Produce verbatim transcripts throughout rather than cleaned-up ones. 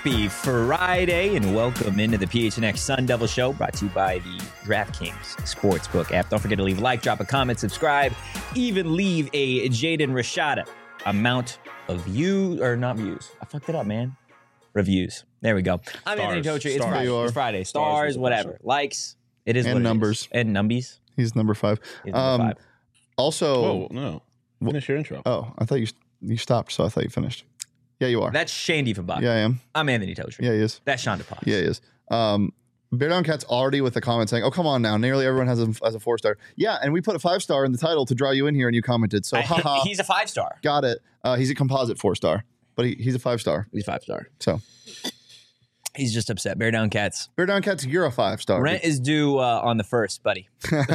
Happy Friday and welcome into the P H N X Sun Devil Show, brought to you by the DraftKings Sportsbook app. Don't forget to leave a like, drop a comment, subscribe, even leave a Jaden Rashada amount of views, or not views. I fucked it up, man. Reviews. There we go. I'm Anthony Totri. It's Friday. It's Friday. Stars, whatever. Likes. It is and what it numbers. Is. And numbies. He's number five. He's number um, five. Also, Whoa, no. Finish your intro. Oh, I thought you you stopped, so I thought you finished. Yeah, you are. That's Shane Diefenbach. Yeah, I am. I'm Anthony Totri. Yeah, he is. That's Sean DePaz. Yeah, he is. Um, Bear Down Cat's already with the comment saying, "Oh, come on now, nearly everyone has a has a four star." Yeah, and we put a five star in the title to draw you in here, and you commented. So, I, haha, he's a five star. got it. Uh, he's a composite four star, but he, he's a five star. He's five star. So, he's just upset. Bear Down Cats. Bear Down Cat's, you're a five star. Rent is due uh, on the first, buddy.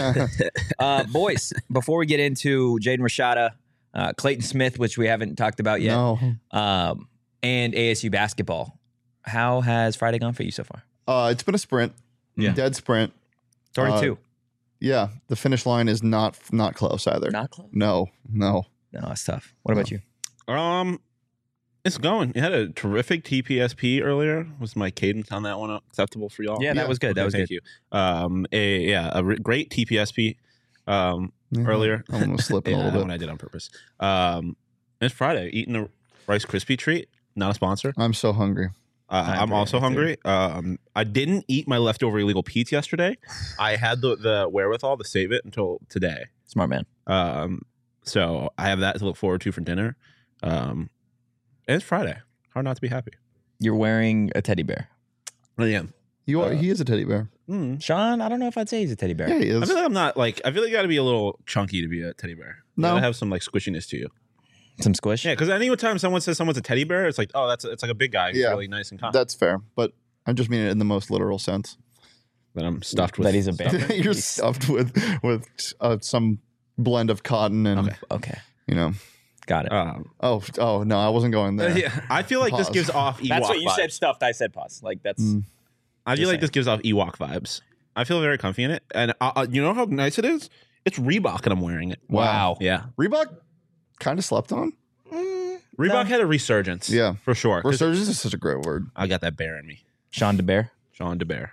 uh, boys, before we get into Jaden Rashada, uh, Clayton Smith, which we haven't talked about yet, No. um, and A S U basketball, how has Friday gone for you so far? Uh, it's been a sprint. Yeah. Dead sprint. It's already Uh, two. Yeah, the finish line is not not close either. Not close. No, no. No, that's tough. What about No. you? Um, it's going. You had a terrific T P S P earlier. Was my cadence on that one acceptable for y'all? Yeah, that Yeah. was good. That Okay, was thank good. you. Um, a yeah, a re- great T P S P. Um, Yeah, earlier. I almost slipping yeah, a that little one bit. I did on purpose. Um, it's Friday. Eating a Rice Krispie treat. Not a sponsor. I'm so hungry. Uh, I'm I'm also hungry, hungry. Um, I didn't eat my leftover illegal Pete's yesterday. I had the the wherewithal to save it until today. Smart man. Um, so I have that to look forward to for dinner. Um, and it's Friday. Hard not to be happy. You're wearing a teddy bear. I am. You are. Uh, he is a teddy bear. Mm. Sean, I don't know if I'd say he's a teddy bear. Yeah, he I is. feel like I'm not like. I feel like you got to be a little chunky to be a teddy bear. You No. gotta have some like squishiness to you. Some squish? Yeah, because any time someone says someone's a teddy bear, it's like, oh, that's it's like a big guy who's Yeah. really nice and calm. That's fair, but I just mean it in the most literal sense. That I'm stuffed with. That he's a bear. stuff. You're stuffed with with uh, some blend of cotton and Okay. Okay. you know. Got it. Um, Oh, oh no, I wasn't going there. yeah, I feel like this Pause. gives off Ewok That's what you vibes. said, stuffed. I said pause. Like, that's... Mm. I feel Just like saying. this gives off Ewok vibes. I feel very comfy in it, and uh, uh, you know how nice it is. It's Reebok, and I'm wearing it. Wow. Yeah, Reebok kind of slept on. Reebok No. had a resurgence. Yeah. for sure. 'cause Resurgence is such a great word. I got that bear in me. Sean DeBear. Sean DeBear.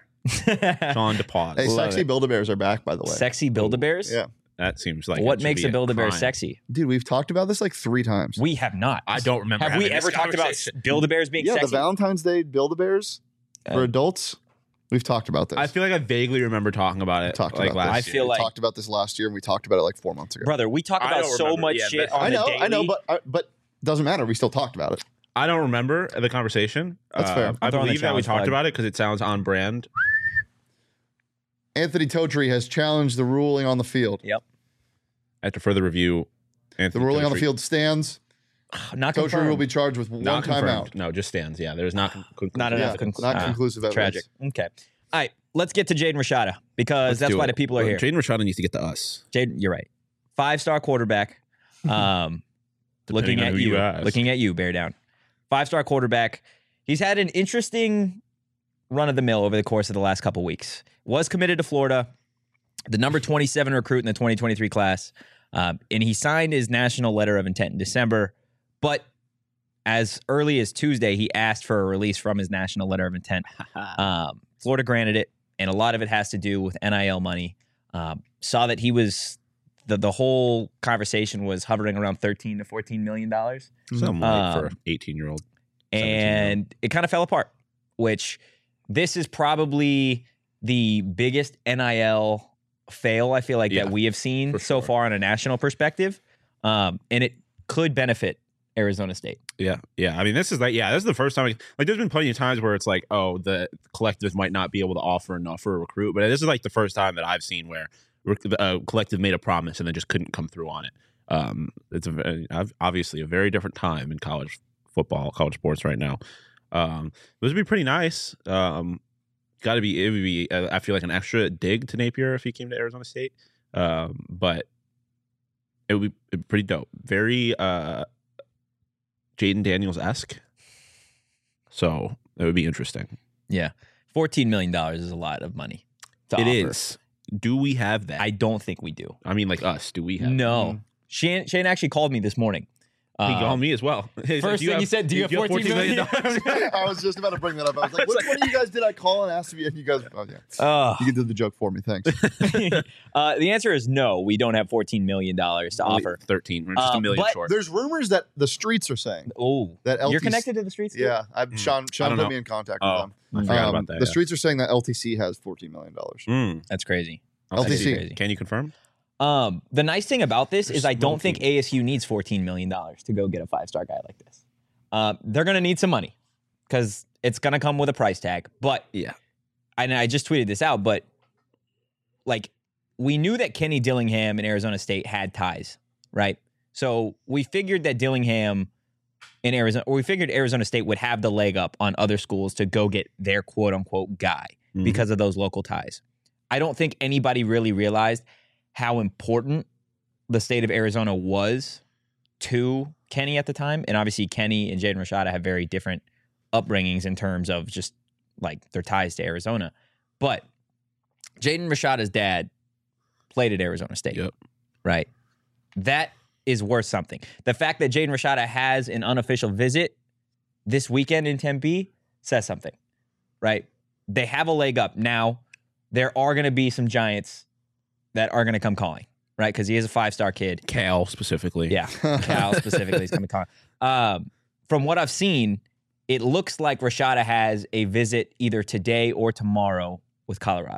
Sean DePause. Hey, Love sexy it. Build-A-Bears are back, by the way. Sexy Build-A-Bears? Yeah, That seems like What it should makes be a Build-A-Bear crime. sexy? dude, we've talked about this like three times. We have not. I don't remember. Have we having ever this talked about conversation. Build-A-Bears being yeah, sexy? the Valentine's Day Build-A-Bears for Uh, adults. We've talked about this. I feel like I vaguely remember talking about it. talked like about last this. I feel we like- talked about this last year, and we talked about it like four months ago. Brother, we talk I about don't so remember. much Yeah, shit but- on I know, the daily. I know, but uh, but doesn't matter. We still talked about it. I don't remember the conversation. That's fair. I I'm throwing the believe that we challenge talked flag. about it because it sounds on brand. Anthony Totri has challenged the ruling on the field. Yep. After further review, The Anthony ruling on the Totri- field stands. Not Totri confirmed. will be charged with one not confirmed. timeout. No, just stands. Yeah, there's not con- conclusive Not enough Yeah, con- not ah, conclusive evidence. Tragic. Okay. All right. Let's get to Jaden Rashada because Let's that's do why it. the people are Well, here. Jaden Rashada needs to get to us. Jaden, you're right. Five-star quarterback. Um, looking on at who you, you ask. looking at you, bear down. Five-star quarterback. He's had an interesting run of the mill over the course of the last couple weeks. Was committed to Florida, the number twenty-seven recruit in the twenty twenty-three class, um, and he signed his national letter of intent in December. But as early as Tuesday, he asked for a release from his national letter of intent. Um, Florida granted it, and a lot of it has to do with N I L money. Um, saw that he was the the whole conversation was hovering around thirteen to fourteen million dollars, Something like for Um, an eighteen year old. and it kind of fell apart. Which this is probably the biggest N I L fail I feel like Yeah, that we have seen for so sure. far on a national perspective, um, and it could benefit Arizona State. Yeah, yeah. I mean, this is like, yeah, this is the first time. Like, there's been plenty of times where it's like, oh, the collective might not be able to offer enough for a recruit, but this is like the first time that I've seen where a collective made a promise and then just couldn't come through on it. Um, it's a, very- obviously a very different time in college football, college sports right now. Um, this would be pretty nice. Um, got to be, it would be, uh, I feel like an extra dig to Napier if he came to Arizona State. Um, but it would be pretty dope. Very, uh, Jaden Daniels-esque. So it would be interesting. Yeah, fourteen million dollars is a lot of money. To It offer. is. Do we have that? I I, don't think we do. mean, like us. Do we have? No. Shane, Shane actually called me this morning He Uh, called me as well. He said, first "Do you thing have- he said, do you have fourteen million dollars? I was just about to bring that up. I was like, which one of you guys did I call and ask me? And you guys, oh yeah, Uh, you did the joke for me. Thanks. uh, the answer is no. We don't have fourteen million dollars to Only offer. thirteen. We're just Uh, a million but short. There's rumors that the streets are saying Oh, that L T C. you're connected to the streets? Yeah, I, Hmm. Sean. I Sean don't put know. me in contact Oh, with them. I forgot Um, about that. the yeah. streets are saying that L T C has fourteen million dollars. Mm. That's crazy. I'll L T C. see. Crazy. Can you confirm? Um, the nice thing about this They're is I don't think smoking. A S U needs fourteen million dollars to go get a five-star guy like this. Uh, they're going to need some money because it's going to come with a price tag. But Yeah. and I just tweeted this out, but like we knew that Kenny Dillingham and Arizona State had ties, right? So we figured that Dillingham in Arizona, or we figured Arizona State would have the leg up on other schools to go get their quote unquote guy Mhm. because of those local ties. I don't think anybody really realized how important the state of Arizona was to Kenny at the time. And obviously Kenny and Jaden Rashada have very different upbringings in terms of just like their ties to Arizona. But Jaden Rashada's dad played at Arizona State. Yep. Right. That is worth something. The fact that Jaden Rashada has an unofficial visit this weekend in Tempe says something. Right. They have a leg up. Now, there are going to be some Giants that are going to come calling. Right. Because he is a five-star kid. Cal specifically. Yeah. Cal specifically is going to call. Um, from what I've seen, it looks like Rashada has a visit either today or tomorrow with Colorado.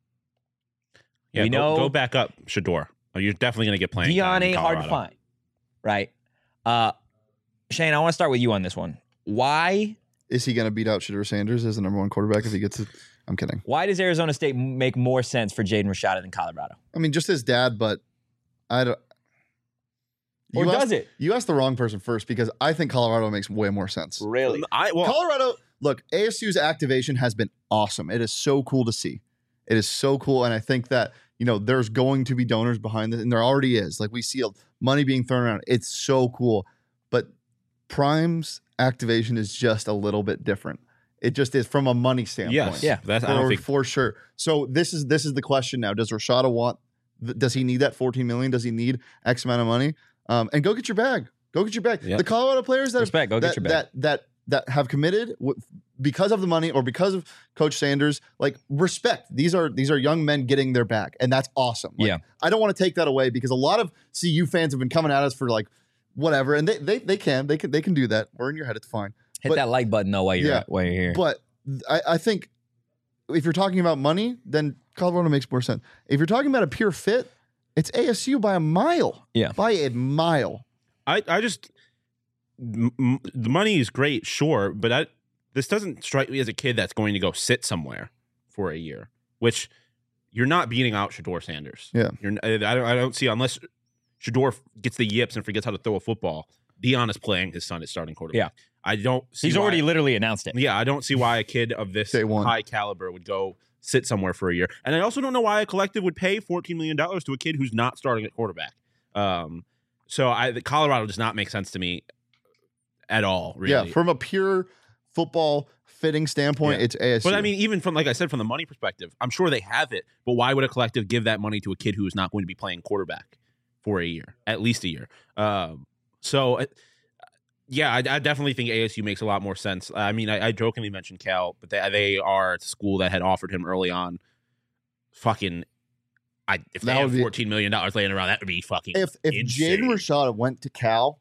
Yeah. We go, know- go back up, Shador. Oh, you're definitely going to get playing. Dion time in ain't hard to Colorado. find. Right. Uh, Shane, I want to start with you on this one. Why Is he going to beat out Shedeur Sanders as the number one quarterback if he gets it? I'm kidding. Why does Arizona State make more sense for Jaden Rashada than Colorado? I mean, just his dad, but I don't. Or You does asked, it? You asked the wrong person first because I think Colorado makes way more sense. Really? I well, Colorado, look, A S U's activation has been awesome. It is so cool to see. It is so cool. And I think that, you know, there's going to be donors behind it, and there already is. Like we see money being thrown around. It's so cool. But Prime's activation is just a little bit different. It just is from a money standpoint. yes. Yeah. That's, I For, don't think. for sure. So this is this is the question now. Does Rashada want th- does he need that fourteen million? Does he need X amount of money? Um, and go get your bag. Go get your bag. Yep. The Colorado players that Respect. Go that, get your bag. that that that have committed w- because of the money or because of Coach Sanders, like respect. These are these are young men getting their bag, and that's awesome. Like, Yeah. I don't want to take that away because a lot of C U fans have been coming at us for like whatever, and they they they can they can they can do that. We're in your head, it's fine. Hit but- that like button though while you're Yeah. while you're here. But th- I, I think if you're talking about money, then Colorado makes more sense. If you're talking about a pure fit, it's A S U by a mile. Yeah. By a mile. I, I just m- m- the money is great, sure, but I, this doesn't strike me as a kid that's going to go sit somewhere for a year, which you're not beating out Shador Sanders. Yeah. You're, I, I don't, I don't see unless Shador gets the yips and forgets how to throw a football. Dion is playing his son is starting quarterback. Yeah. I don't see He's why- already literally announced it. Yeah, I don't see why a kid of this Day one. high caliber would go sit somewhere for a year. And I also don't know why a collective would pay fourteen million dollars to a kid who's not starting at quarterback. Um, so I, the Colorado does not make sense to me at all, really. Yeah. From a pure football fitting standpoint, Yeah. it's A S U. But I mean, even from, like I said, from the money perspective, I'm sure they have it. But why would a collective give that money to a kid who is not going to be playing quarterback for a year, at least a year? Um, so, uh, yeah, I, I definitely think A S U makes a lot more sense. I mean, I, I jokingly mentioned Cal, but they, they are a school that had offered him early on. Fucking, I if they That have would be- fourteen million dollars laying around, that would be fucking. if if insane. Jaden Rashada went to Cal,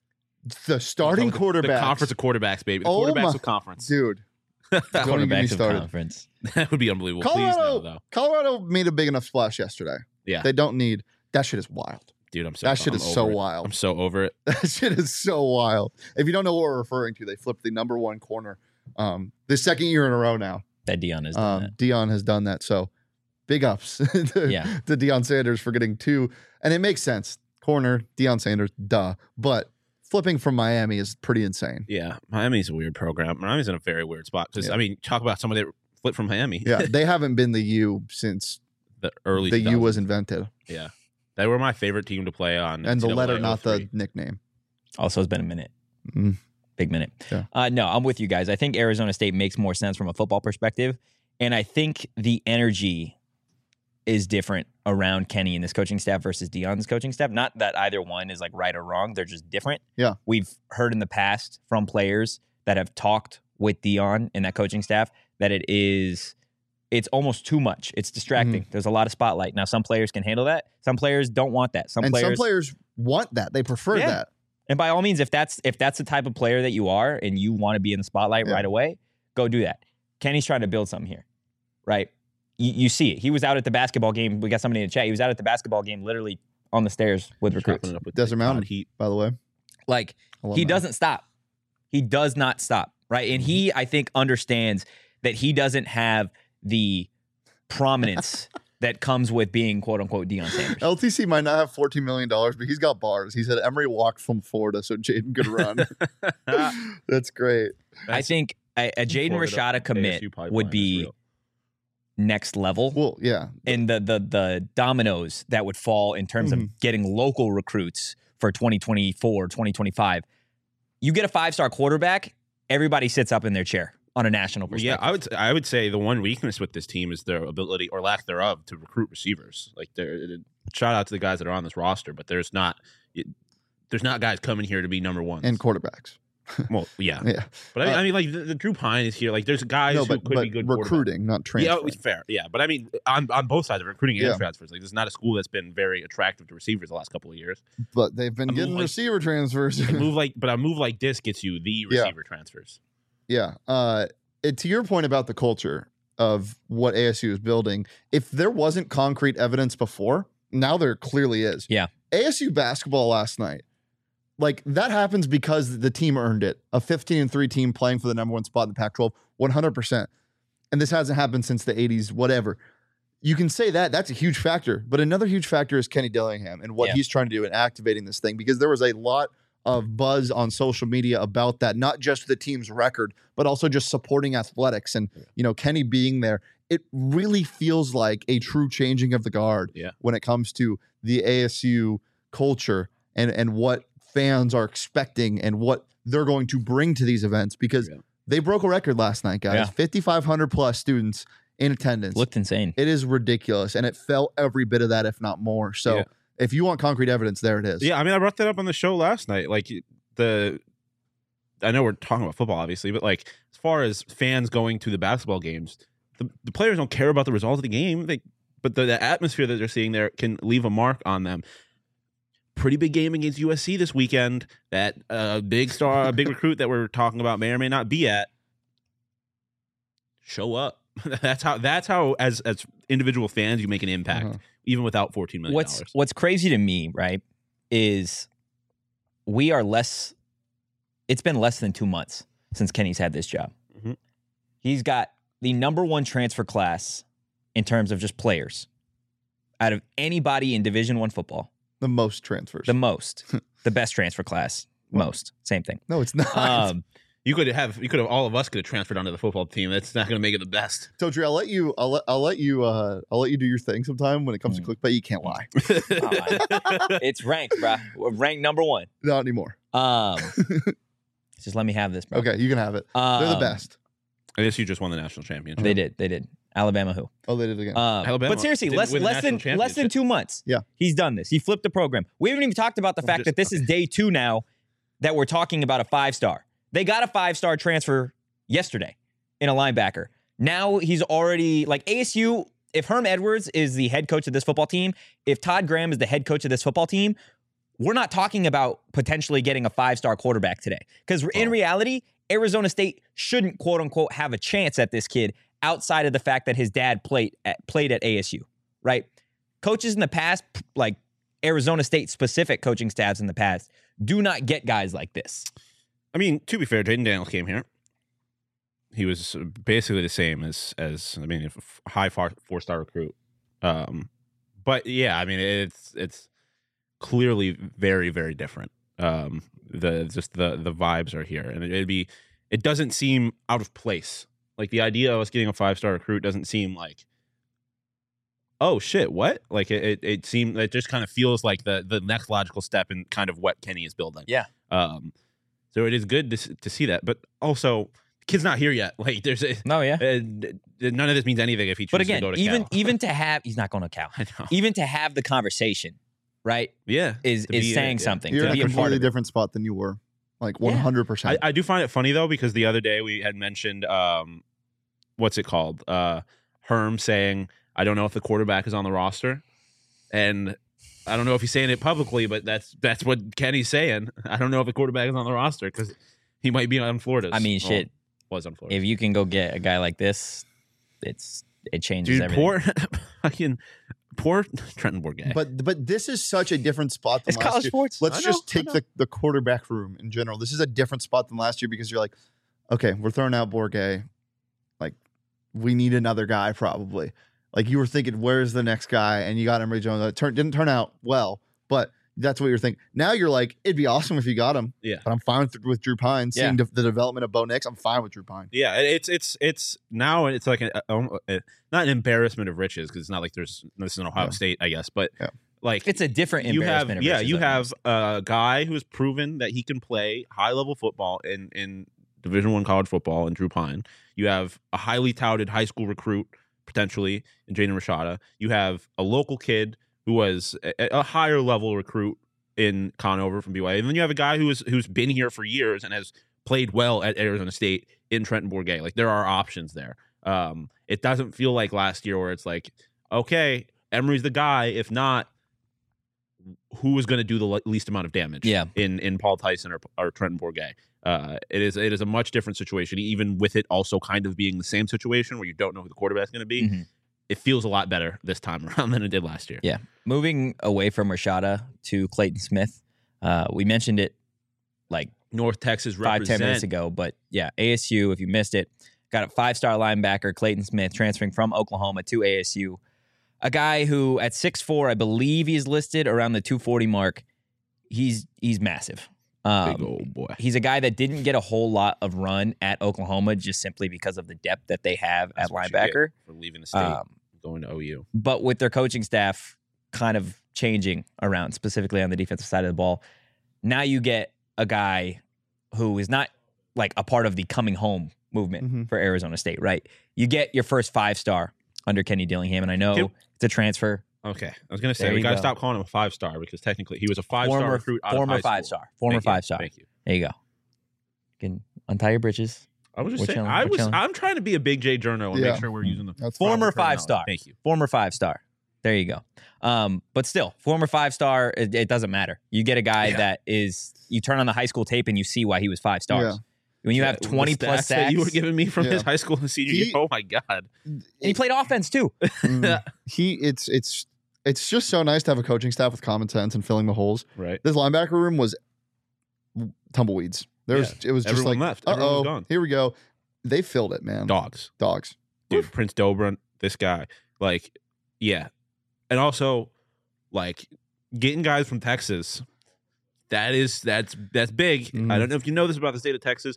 the starting the, quarterback, the conference of quarterbacks, baby, the Oh quarterbacks my- of conference. dude, don't even get me Quarterbacks of started. conference. That would be unbelievable. Please no, Colorado, though. Colorado made a big enough splash yesterday. Yeah. They don't need that shit is wild. Dude, I'm so That shit I'm is so over it. wild. I'm so over it. That shit is so wild. If you don't know what we're referring to, they flipped the number one corner. Um, the second year in a row now. That Dion has done Um, Dion has done that. So big ups to, Yeah. to Deion Sanders for getting two. And it makes sense. Corner, Deion Sanders, duh. But flipping from Miami is pretty insane. Yeah, Miami's a weird program. Miami's in a very weird spot because Yeah. I mean, talk about somebody that flipped from Miami. Yeah, they haven't been the U since the early the U two thousands. was invented. Yeah, they were my favorite team to play on. And the N C double A letter, not the oh three. nickname. that. Also, it's been a minute. Mm. Big minute. Yeah. Uh, no, I'm with you guys. I think Arizona State makes more sense from a football perspective. And I think the energy is different around Kenny and this coaching staff versus Deion's coaching staff. Not that either one is like right or wrong. They're just different. Yeah. We've heard in the past from players that have talked with Deion and that coaching staff that it is, it's almost too much. It's distracting. Mm-hmm. There's a lot of spotlight. Now, some players can handle that. Some players don't want that. Some and players, some players want that. They prefer yeah. that. And by all means, if that's if that's the type of player that you are and you want to be in the spotlight yeah. right away, go do that. Kenny's trying to build something here, right? You, you see it. He was out at the basketball game. We got somebody in the chat. He was out at the basketball game literally on the stairs with recruits. Up with Desert Mountain Heat, by the way. Like, he that. doesn't stop. He does not stop, right? And he, I think, understands that he doesn't have the prominence that comes with being quote-unquote Deion Sanders. L T C might not have fourteen million dollars, but he's got bars. He said Emory walked from Florida so Jaden could run. That's great. That's, I think a, a Jaden Rashada commit would be next level. Well, yeah. And the the the dominoes that would fall in terms mm-hmm. of getting local recruits for twenty twenty-four, twenty twenty-five. You get a five-star quarterback, everybody sits up in their chair on a national perspective. Yeah, I would I would say the one weakness with this team is their ability or lack thereof to recruit receivers. Like, shout out to the guys that are on this roster, but there's not there's not guys coming here to be number ones. And quarterbacks. Well, yeah, yeah. But I, uh, I mean, like the, the Drew Pine is here. Like, there's guys no, but, who could but be good recruiting, not transfer. Yeah, fair. Yeah, but I mean, on on both sides of recruiting and yeah. transfers, like this is not a school that's been very attractive to receivers the last couple of years. But they've been a getting like, receiver transfers. a move like, but a move like this gets you the receiver yeah. transfers. Yeah. Uh, it, to your point about the culture of what A S U is building, if there wasn't concrete evidence before, now there clearly is. Yeah. A S U basketball last night. Like, that happens because the team earned it. A fifteen and three team playing for the number one spot in the Pac twelve, one hundred percent. And this hasn't happened since the eighties, whatever. You can say that. That's a huge factor. But another huge factor is Kenny Dillingham and what yeah. he's trying to do in activating this thing, because there was a lot of buzz on social media about that, not just the team's record, but also just supporting athletics. And, you know, Kenny being there, it really feels like a true changing of the guard yeah. when it comes to the A S U culture and, and what fans are expecting and what they're going to bring to these events, because yeah. they broke a record last night, guys. Yeah. fifty-five hundred plus students in attendance. Looked insane. It is ridiculous, and it felt every bit of that, if not more. So yeah. if you want concrete evidence, there it is. Yeah, I mean, I brought that up on the show last night. Like, the I know we're talking about football, obviously, but like, as far as fans going to the basketball games, the, the players don't care about the result of the game. They, but the, the atmosphere that they're seeing there can leave a mark on them. Pretty big game against U S C this weekend. That uh, big star, a big recruit that we're talking about may or may not be at. Show up. that's how. That's how. As as individual fans, you make an impact, uh-huh. even without fourteen million dollars. What's What's crazy to me, right, is we are less. It's been less than two months since Kenny's had this job. Mm-hmm. He's got the number one transfer class in terms of just players out of anybody in Division One football. The most transfers. The most. The best transfer class. Most. Same thing. No, it's not. Um, you could have, you could have, all of us could have transferred onto the football team. That's not going to make it the best. Totri, I'll let you, I'll let, I'll let you, uh, I'll let you do your thing sometime when it comes mm. to clickbait. You can't lie. uh, it's ranked, bro. We're ranked number one. Not anymore. Um, just let me have this, bro. Okay, you can have it. Um, They're the best. I guess you just won the national championship. They did. They did. Alabama who? Oh, they did again. Um, Alabama. But seriously, less less than less than two months. Yeah, he's done this. He flipped the program. We haven't even talked about the I'm fact just, that this okay. is day two now that we're talking about a five star. They got a five star transfer yesterday in a linebacker. Now he's already like A S U. If Herm Edwards is the head coach of this football team, if Todd Graham is the head coach of this football team, we're not talking about potentially getting a five star quarterback today. Because oh. in reality, Arizona State shouldn't quote unquote have a chance at this kid outside of the fact that his dad played at, played at A S U, right? Coaches in the past, like Arizona State specific coaching staffs in the past, do not get guys like this. I mean, to be fair, Jaden Daniels came here. He was basically the same as, as I mean, a high four, four-star recruit. Um, but yeah, I mean, it's it's clearly very, very different. Um, the just the the vibes are here, and it'd be it doesn't seem out of place. Like, the idea of us getting a five-star recruit doesn't seem like, oh shit, what? Like it, it, it seemed it just kind of feels like the the next logical step in kind of what Kenny is building. Yeah. Um. So it is good to to see that, but also kid's not here yet. Like there's a, No, yeah. uh, none of this means anything if he chooses But again, to go to even Cal. even to have he's not going to Cal. I know. Even to have the conversation, right? Yeah, Is to is be, uh, saying yeah. something. You're to in be a a part completely of it. different spot than you were, like Yeah. one hundred percent. I, I do find it funny though because the other day we had mentioned um, what's it called? Uh, Herm saying, "I don't know if the quarterback is on the roster," and I don't know if he's saying it publicly, but that's that's what Kenny's saying. I don't know if the quarterback is on the roster because he might be on Florida's. I mean, Well, shit. was on Florida. If you can go get a guy like this, it's it changes Dude, everything. poor fucking poor Trenton Bourget. But but this is such a different spot than It's last college year. sports. Let's I know, just I take know. the, the quarterback room in general. This is a different spot than last year because you're like, okay, we're throwing out Bourget. Like, we need another guy probably. Like you were thinking, where's the next guy? And you got Emory Jones. It turn, didn't turn out well, but that's what you're thinking. Now you're like, it'd be awesome if you got him. Yeah. But I'm fine with, with Drew Pine. Seeing Yeah. de- the development of Bo Nix, I'm fine with Drew Pine. Yeah, it's it's it's now it's like a, a, a- not an embarrassment of riches because it's not like there's this is an Ohio Yeah. State, I guess, but Yeah. like It's a different you have embarrassment. of yeah riches, you I have think. a guy who has proven that he can play high level football in in Division One college football in Drew Pine. You have a highly touted high school recruit potentially in Jaden Rashada. You have a local kid who was a, a higher level recruit in Conover from B Y U, and then you have a guy who is who's been here for years and has played well at Arizona State in Trenton Bourget. Like there are options there. Um, it doesn't feel like last year where it's like, okay, Emory's the guy. If not, who is going to do the le- least amount of damage? Yeah. in in Paul Tyson or, or Trenton Bourget. Uh, it is it is a much different situation. Even with it also kind of being the same situation where you don't know who the quarterback's going to be. Mhm. It feels a lot better this time around than it did last year. Yeah. Moving away from Rashada to Clayton Smith, uh, we mentioned it like North Texas five, represent. ten minutes ago, but yeah, A S U, if you missed it, got a five-star linebacker, Clayton Smith, transferring from Oklahoma to A S U. A guy who at six foot four, I believe he's listed around the two forty mark. He's he's massive. Um, Big old boy. He's a guy that didn't get a whole lot of run at Oklahoma just simply because of the depth that they have That's at what you get linebacker. for leaving the state, Um, going to O U. but with their coaching staff kind of changing around, specifically on the defensive side of the ball, now you get a guy who is not like a part of the coming home movement Mhm. for Arizona State, right? You get your first five star under Kenny Dillingham, and I know Can- it's a transfer. Okay, I was gonna say There we you got to go. stop calling him a five star because technically he was a five star Former, recruit. Out former of high five school. star, former Thank you. five star. Thank you. There you go. You can untie your britches. I was just We're saying. chilling, I we're was. chilling. I'm trying to be a big J journo and Yeah. make sure we're using the That's Former proper five star. terminology. Thank you. Former five star. There you go. Um, but still, former five star, it, it doesn't matter. You get a guy Yeah. that is, you turn on the high school tape and you see why he was five stars. Yeah. When you have The twenty stats plus that sacks, you were giving me from Yeah. his high school and senior He- year. Oh my god. and he played offense too. Mm. he it's it's it's just so nice to have a coaching staff with common sense and filling the holes. Right. This linebacker room was tumbleweeds. There's it was just Everyone like, left. uh Everyone was oh, gone. here we go. They filled it, man. Dogs. Dogs. Dude, Prince Dobrin, this guy. Like, yeah. And also, like, getting guys from Texas, that is that's that's big. Mhm. I don't know if you know this about the state of Texas.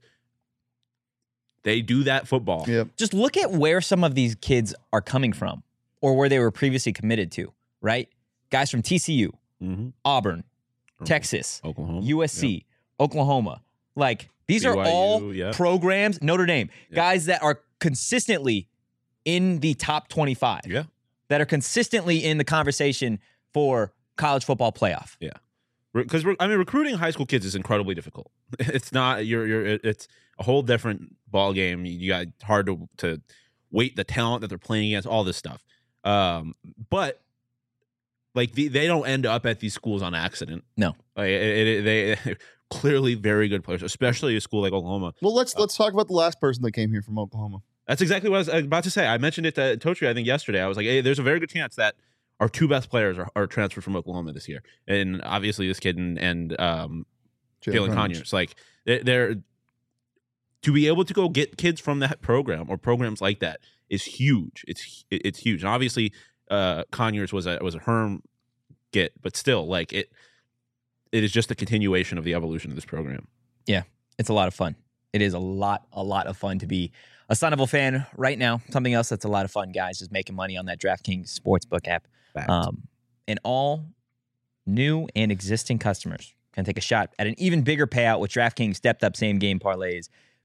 They do that football. Yep. Just look at where some of these kids are coming from or where they were previously committed to, right? Guys from T C U, Mm-hmm. Auburn, Texas, Oklahoma, U S C, Oklahoma. Like, these are B Y U, all yeah. programs, Notre Dame, Yeah. guys that are consistently in the top twenty-five. Yeah. That are consistently in the conversation for college football playoff. Because I mean, recruiting high school kids is incredibly difficult. It's not you're you're it's a whole different ball game. You got hard to to weight the talent that they're playing against, all this stuff. Um, but like the, they don't end up at these schools on accident. No. like it, it, they clearly very good players, especially a school like Oklahoma. Well, let's let's talk about the last person that came here from Oklahoma. That's exactly what I was about to say. I mentioned it to Totri, I think, yesterday. I was like, hey, there's a very good chance that our two best players are, are transferred from Oklahoma this year. And obviously this kid and, and um, Jalen Conyers. Like, they're, they're to be able to go get kids from that program or programs like that is huge. It's it's huge. And obviously uh, Conyers was a was a Herm get, but still, like, it it is just a continuation of the evolution of this program. It's a lot of fun. It is a lot, a lot of fun to be a Sonable fan right now. Something else that's a lot of fun, guys, is making money on that DraftKings Sportsbook app. Fact. Um, and all new and existing customers can take a shot at an even bigger payout with DraftKings stepped up same game parlays.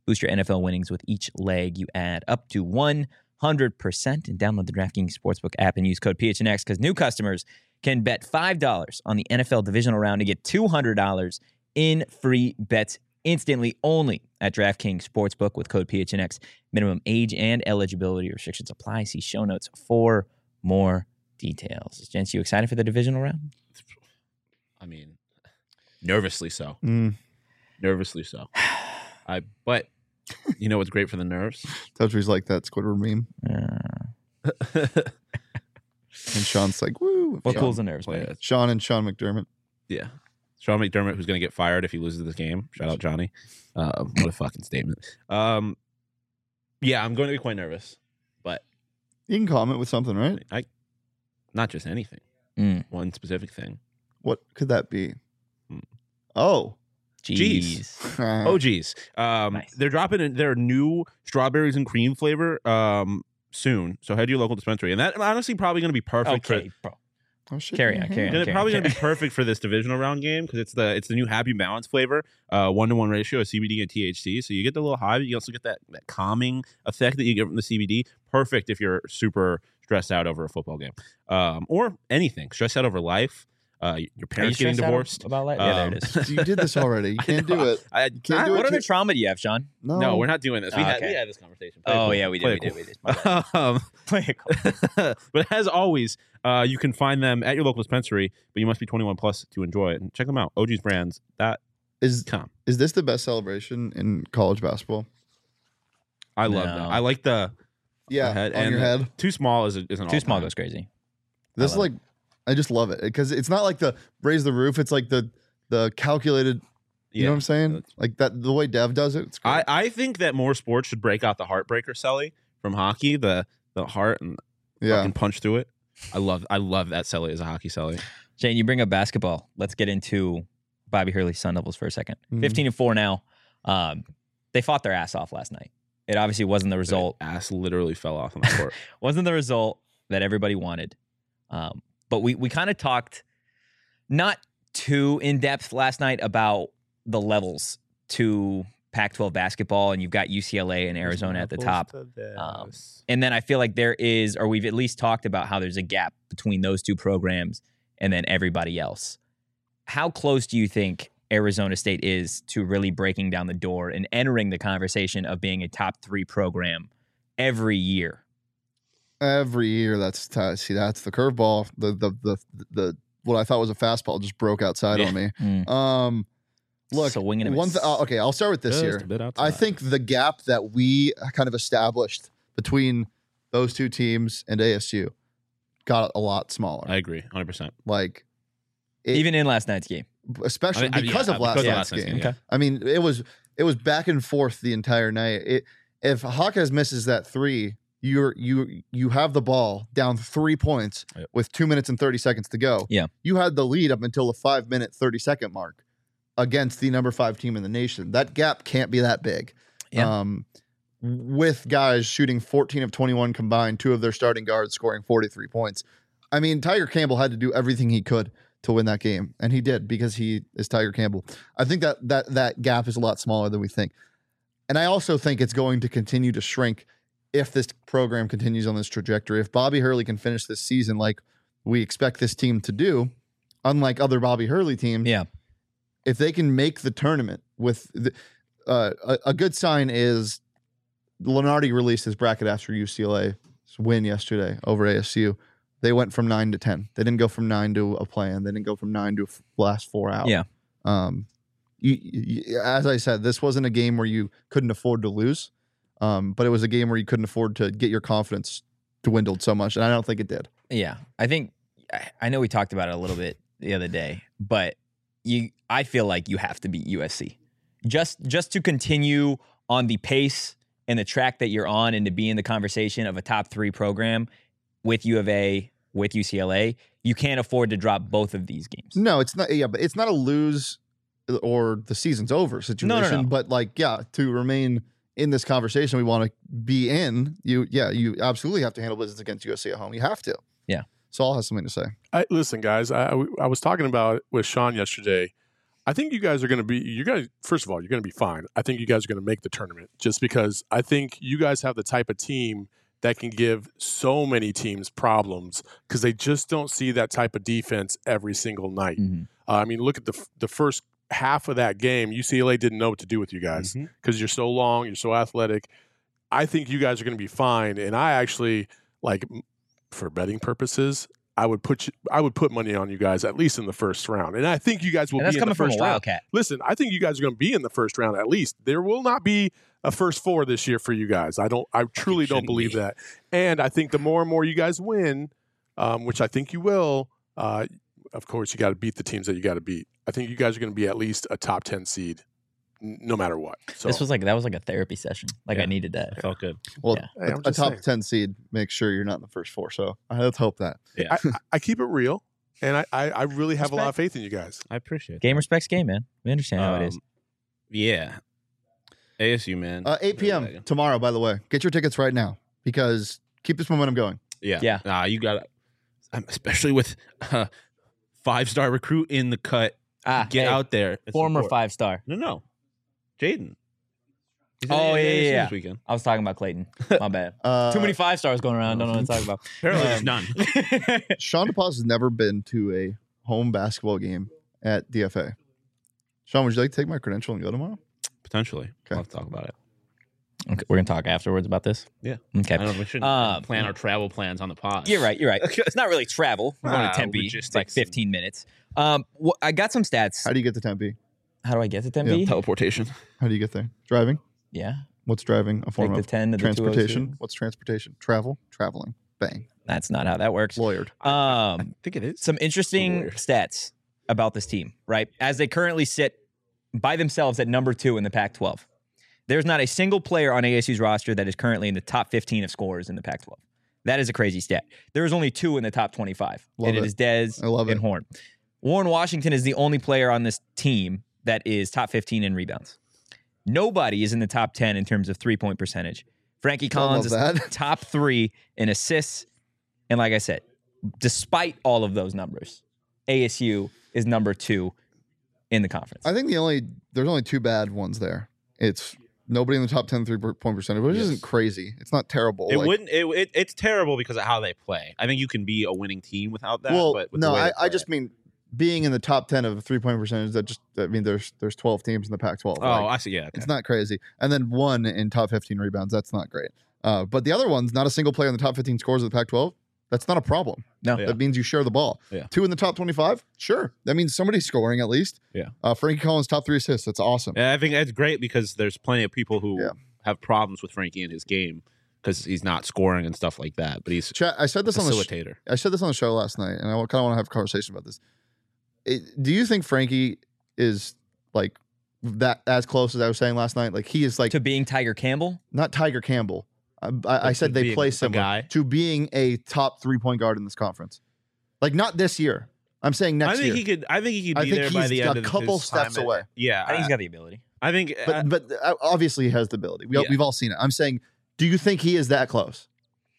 Boost your N F L winnings with each leg you add up to one hundred percent. And download the DraftKings Sportsbook app and use code P H N X because new customers can bet five dollars on the N F L divisional round to get two hundred dollars in free bets instantly only at DraftKings Sportsbook with code P H N X. Minimum age and eligibility restrictions apply. See show notes for more details. Gents, you excited for the divisional round? I mean, nervously so. Mm. Nervously so. I but you know what's great for the nerves? Touchy's like that Squidward meme. Uh, And Sean's like, woo. what Sean, cools the nerves, Play man? it. Sean and Sean McDermott. Yeah. Sean McDermott, who's going to get fired if he loses this game. Shout out Johnny. Uh, what a fucking statement. Um, yeah, I'm going to be quite nervous, but You can comment with something, right? I not just anything. Mm, One specific thing. What could that be? Hmm. Oh. jeez. Oh, geez. Um, Nice. They're dropping in their new strawberries and cream flavor um, soon. So head to your local dispensary. And that honestly probably going to be perfect Okay, for bro. Oh, shit. Carry on, carry on. It's carry probably on, going to be carry perfect for this divisional round game because it's the it's the new Happy Balance flavor, uh, one to one ratio of C B D and T H C. So you get the little high, but you also get that that calming effect that you get from the C B D. Perfect if you're super stressed out over a football game, um, or anything. Stressed out over life. Uh, your on. Are you parents getting stressed out divorced. about life? Yeah, there Um, it is. You did this already. You I can't know. do it. I, can't I- do What it other too- trauma do you have, Sean? No. No, we're not doing this. We, Oh, had, okay. we had this conversation. Play it Oh, cool. yeah, we did. Play We it did. cool. We did. My bad. um, Play it cool. but as always, uh, you can find them at your local dispensary, but you must be twenty-one plus to enjoy it. And check them out. O G's Brands dot Is com. is this the best celebration in college basketball? I love No. that. I like the Yeah, the head. on and your head. Too small is, a, is an Too small all-time. goes crazy. This is love like, I just love it because it's not like the raise the roof. It's like the the calculated. You know what I'm saying? That's- Like that the way Dev does it. It's great. I, I think that more sports should break out the heartbreaker celly from hockey, the the heart and yeah. fucking punch through it. I love I love that celly as a hockey celly. Shane, you bring up basketball. Let's get into Bobby Hurley's Sun Devils for a second. Mhm. fifteen and four now. Um, they fought their ass off last night. It obviously wasn't the result. Their ass literally fell off on the court. wasn't the result that everybody wanted. Um, but we we kind of talked not too in depth last night about the levels to Pac twelve basketball, and you've got U C L A and Arizona at the top. Um, And then I feel like there is, or we've at least talked about how there's a gap between those two programs and then everybody else. How close do you think Arizona State is to really breaking down the door and entering the conversation of being a top three program every year? Every year, that's t- see that's the curveball. The the the the what I thought was a fastball just broke outside Yeah. on me. Mm. Um, look, So winging and a one. Th- miss. uh, okay, I'll start with this Just here. a bit I outside. think the gap that we kind of established between those two teams and A S U got a lot smaller. I agree, one hundred percent. like, it, Even in last night's game. especially I mean, I- because yeah, of last because of night's last night's game. game, yeah. Okay. I mean, it was it was back and forth the entire night. It, if Hawkes misses that three, you're you you have the ball down three points Yep. with two minutes and thirty seconds to go. Yeah. You had the lead up until the five minute thirty second mark against the number five team in the nation. That gap can't be that big. Yeah. Um, with guys shooting fourteen of twenty-one combined, two of their starting guards scoring forty-three points. I mean, Tiger Campbell had to do everything he could to win that game, and he did because he is Tiger Campbell. I think that that that gap is a lot smaller than we think. And I also think it's going to continue to shrink if this program continues on this trajectory. If Bobby Hurley can finish this season like we expect this team to do, unlike other Bobby Hurley teams, Yeah. if they can make the tournament with the, uh, a, a good sign is Lenardi released his bracket after U C L A's win yesterday over A S U. They went from nine to ten. They didn't go from nine to a plan. They didn't go from nine to f- last four out. Yeah. Um, you, you, as I said, this wasn't a game where you couldn't afford to lose, um, but it was a game where you couldn't afford to get your confidence dwindled so much, and I don't think it did. Yeah, I think I- I know we talked about it a little bit the other day, but you, I feel like you have to beat U S C just just to continue on the pace and the track that you're on, and to be in the conversation of a top three program with U of A, with U C L A. You can't afford to drop both of these games. No, it's not. Yeah, but it's not a lose or the season's over situation. No, no, no. But like, yeah, to remain in this conversation we want to be in, you, yeah, you absolutely have to handle business against U S C at home. You have to. Yeah. Saul has something to say. I, listen, guys, I, I was talking about it with Sean yesterday. I think you guys are going to be, you guys, first of all, you're going to be fine. I think you guys are going to make the tournament just because I think you guys have the type of team that can give so many teams problems because they just don't see that type of defense every single night. Mm-hmm. Uh, I mean, look at the the first half of that game. U C L A didn't know what to do with you guys because mm-hmm. you're so long, you're so athletic. I think you guys are going to be fine. And I actually, like, for betting purposes, I would put you, I would put money on you guys at least in the first round, and I think you guys will and that's be in coming the first from a round. Wildcat. Listen, I think you guys are going to be in the first round at least. There will not be a first four this year for you guys. I don't. I truly don't believe be. that. And I think the more and more you guys win, um, which I think you will, uh, of course you got to beat the teams that you got to beat. I think you guys are going to be at least a top ten seed, n- no matter what. So this was like that was like a therapy session. Like yeah. I needed that. It felt good. Well, Yeah. Hey, a, I'm a just top saying. ten seed makes sure you're not in the first four. So uh, let's hope that. Yeah, I, I keep it real, and I, I, I really have Respect. a lot of faith in you guys. I appreciate it. Game respects game, man. We understand how it is. Um, Yeah. A S U, man. Uh, eight p.m. tomorrow, by the way. Get your tickets right now because keep this momentum going. Yeah. Yeah. Nah, you got to, especially with uh, five-star recruit in the cut. Ah, Get hey, out there. and former support. five star. No, no. Jaden. He's Oh, in yeah, A S U yeah, yeah. This weekend. I was talking about Clayton. My bad. Uh, Too many five stars going around. Don't know what to talk about. Apparently, Um, there's none. Sean DePaz has never been to a home basketball game at D F A. Sean, would you like to take my credential and go tomorrow? Potentially. Okay. We'll have to talk about it. Okay, we're gonna talk afterwards about this. Yeah. Okay. I don't know. We shouldn't Um, plan our travel plans on the pod. You're right. You're right. It's not really travel. We're going Ah, to Tempe. we just It's like take some- fifteen minutes. Um, wh- I got some stats. How do you get to Tempe? How do I get to Tempe? Teleportation. How do you get there? Driving? Yeah. What's driving? A form Take the of ten to the transportation? two oh two. What's transportation? Travel? Traveling. Bang. That's not how that works. Lawyered. Um, I think it is. some interesting Weird. stats about this team, right? As they currently sit by themselves at number two in the Pac twelve. There's not a single player on A S U's roster that is currently in the top fifteen of scorers in the Pac twelve. That is a crazy stat. There is only two in the top twenty-five, Love and it it. is Dez I love and it. Horn. Warren Washington is the only player on this team that is top fifteen in rebounds. Nobody is in the top ten in terms of three-point percentage. Frankie Collins is love that. top three in assists. And like I said, despite all of those numbers, A S U is number two in the conference. I think the only there's only two bad ones there. It's nobody in the top ten three point percentage, which Yes. isn't crazy. It's not terrible. It Like, wouldn't. It, it, it's terrible because of how they play. I think you can be a winning team without that. well, but with the no, way I, they I play- just mean being in the top ten of three point percentage. That just I mean there's there's twelve teams in the Pac twelve. Oh, Like, I see. Yeah. Okay. it's not crazy. And then one in top fifteen rebounds. That's not great. Uh, but the other one's not a single player in the top fifteen scores of the Pac twelve. That's not a problem. No. Yeah. That means you share the ball. Yeah. Two in the top twenty-five? Sure. That means somebody's scoring at least. Yeah. Uh, Frankie Collins, top three assists. That's awesome. Yeah, I think that's great because there's plenty of people who Yeah. have problems with Frankie in his game because he's not scoring and stuff like that. But he's Chat, I said a this on the sh- facilitator. I said this on the show last night, and I kind of want to have a conversation about this. It, do you think Frankie is like that as close as I was saying last night? Like he is like to being Tiger Campbell. not Tiger Campbell. I, I, I said to they being play a similar guy? to being a top three point guard in this conference. Like not this year. I'm saying next I think year. he could. I think he could I be think there by he's the a end of couple his steps time at- away. Yeah, I think he's got the ability. I think. but uh, but uh, obviously he has the ability. We, Yeah. We've all seen it. I'm saying, do you think he is that close?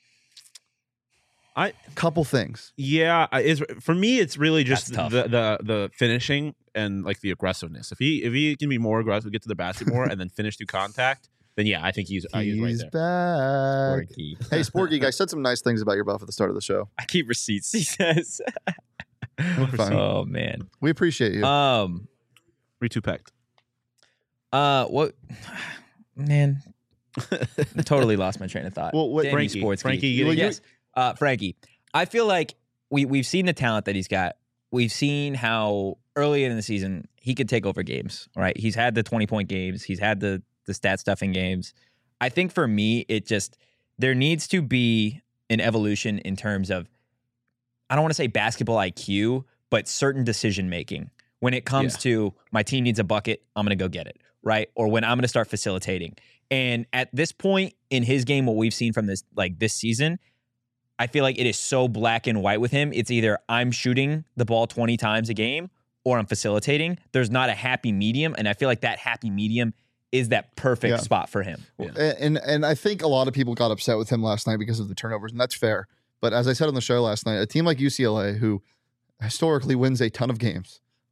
I Couple things. yeah, I- is for me. It's really just That's tough. the, the the finishing and like the aggressiveness. If he if he can be more aggressive, get to the basket more, and then finish through contact, then yeah, I think he's uh, he's right He's there. back. Sporky. Hey, Sport Geek, I said some nice things about your buff at the start of the show. I keep receipts. He says. Fine. Oh man. We appreciate you. Um. Three two packed. Uh. What? Man. Totally lost my train of thought. Well, what- Danny Frankie. Sportsky. Frankie, you- Well, you- yes. Uh, Frankie. I feel like we we've seen the talent that he's got. We've seen how early in the season he could take over games. Right. He's had the twenty point games. He's had the the stat stuffing games. I think for me, it just there needs to be an evolution in terms of I don't want to say basketball I Q, but certain decision making. When it comes Yeah. to my team needs a bucket, I'm going to go get it, right? Or when I'm going to start facilitating. And at this point in his game, what we've seen from this like this season, I feel like it is so black and white with him. It's either I'm shooting the ball twenty times a game or I'm facilitating. There's not a happy medium, and I feel like that happy medium is that perfect Yeah. spot for him. Yeah. And and I think a lot of people got upset with him last night because of the turnovers, and that's fair. But as I said on the show last night, a team like U C L A, who historically wins a ton of games,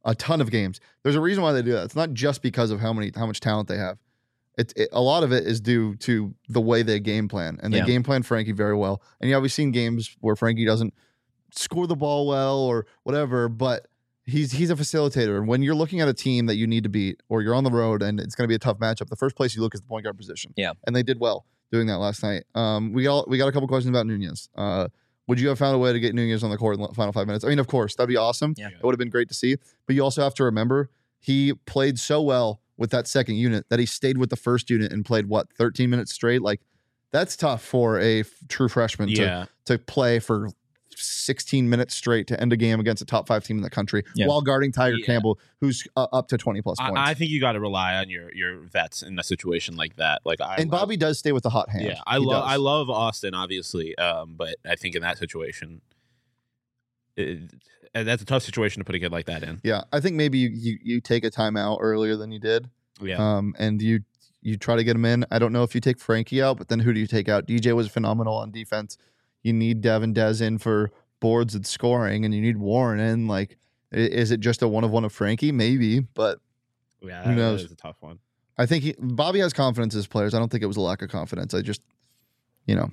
a ton of games. There's a reason why they do that. It's not just because of how many how much talent they have. It, it a lot of it is due to the way they game plan, and they Yeah. game plan Frankie very well. And yeah, we've seen games where Frankie doesn't score the ball well or whatever, but he's he's a facilitator. And when you're looking at a team that you need to beat, or you're on the road and it's going to be a tough matchup, the first place you look is the point guard position. Yeah. And they did well doing that last night. Um, we all we got a couple questions about Nunez. Uh, would you have found a way to get Nunez on the court in the final five minutes? I mean, of course, that'd be awesome. Yeah. It would have been great to see. But you also have to remember he played so well with that second unit that he stayed with the first unit and played what thirteen minutes straight. Like that's tough for a f- true freshman Yeah. to to play for sixteen minutes straight to end a game against a top five team in the country Yeah. while guarding Tiger Yeah. Campbell, who's uh, up to twenty plus I, points. I think you got to rely on your your vets in a situation like that. Like I and Bobby does stay with the hot hand. Yeah, I He love does. I love Austin, obviously, um, but I think in that situation, it, and that's a tough situation to put a kid like that in. Yeah, I think maybe you, you you take a timeout earlier than you did, Yeah, um, and you you try to get him in. I don't know if you take Frankie out, but then who do you take out? D J was phenomenal on defense. You need Devin Dez in for boards and scoring, and you need Warren in. Like, i- is it just a one of one of Frankie? Maybe, but yeah, who that- knows? That is a tough one. I think he, Bobby has confidence in his players. I don't think it was a lack of confidence. I just, you know,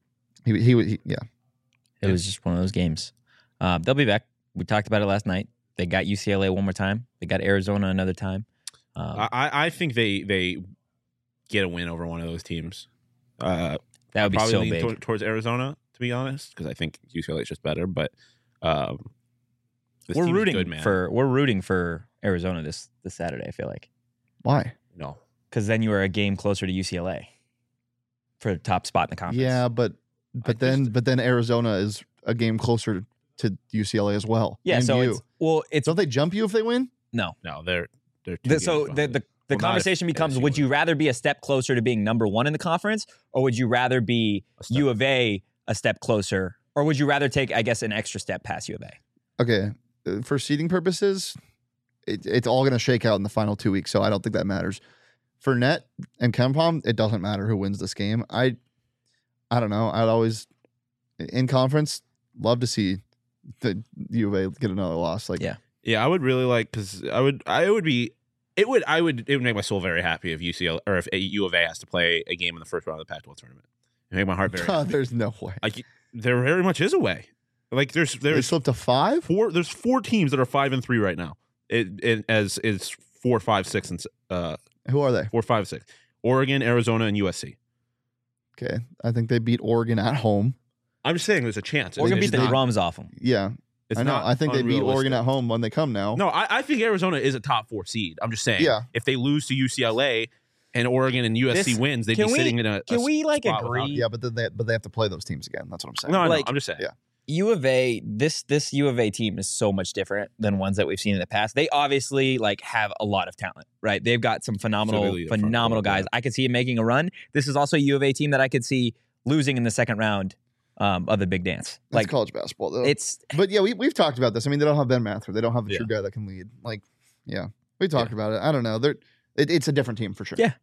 he he, he yeah. It was just one of those games. Uh, they'll be back. We talked about it last night. They got U C L A one more time. They got Arizona another time. Um, I I I think they they get a win over one of those teams. Uh, that would be probably so lean big. tor- towards Arizona, to be honest, because I think U C L A is just better. But um, this we're team's rooting good, man. for we're rooting for Arizona this this Saturday. I feel like Why? no. because then you are a game closer to U C L A for the top spot in the conference. Yeah, but but I then just- but then Arizona is a game closer to U C L A as well. yeah. and So you. it's well, it's Don't they jump you if they win? no. No, they're they're too The, good so for the them. the, the Well, not conversation if becomes: A S U would you wins. rather be a step closer to being number one in the conference, or would you rather be A step. U of A a step closer, or would you rather take, I guess, an extra step past U of A? Okay, uh, for seeding purposes, it, it's all going to shake out in the final two weeks, so I don't think that matters. For Net and Kempom, it doesn't matter who wins this game. I, I don't know. I'd always, in conference, love to see the U of A get another loss. Like, Yeah. Yeah, I would really like because I would I would be it would I would it would make my soul very happy if U C L or if U of A has to play a game in the first round of the Pac twelve tournament. It would make my heart very happy. there's no way. Like there very much is a way. Like there's They there's slipped to five. four there's four teams that are five and three right now. It, it as is four five six and s- uh Who are they? four five six. Oregon, Arizona, and U S C. Okay, I think they beat Oregon at home. I'm just saying there's a chance. We're gonna It's beat the not- drums off them. Yeah, It's I know. not I think they beat Oregon unrealistic. at home when they come now. No, I, I think Arizona is a top four seed. I'm just saying. Yeah. If they lose to U C L A and Oregon and U S C This- wins, they'd can be we- sitting in a. Can a we like spot without- agree? Yeah, but then they but they have to play those teams again. That's what I'm saying. No, I know. Like- I'm just saying. Yeah. U of A, this this U of A team is so much different than ones that we've seen in the past. They obviously like have a lot of talent, right? They've got some phenomenal, Absolutely, the front phenomenal court, guys. I could see it making a run. This is also a U of A team that I could see losing in the second round um, of the big dance. That's Like college basketball though. it's But yeah, we we've talked about this. I mean, they don't have Ben Mather. They don't have a Yeah. true guy that can lead. Like, yeah, we talked about it. I don't know. They're it, it's a different team for sure. Yeah.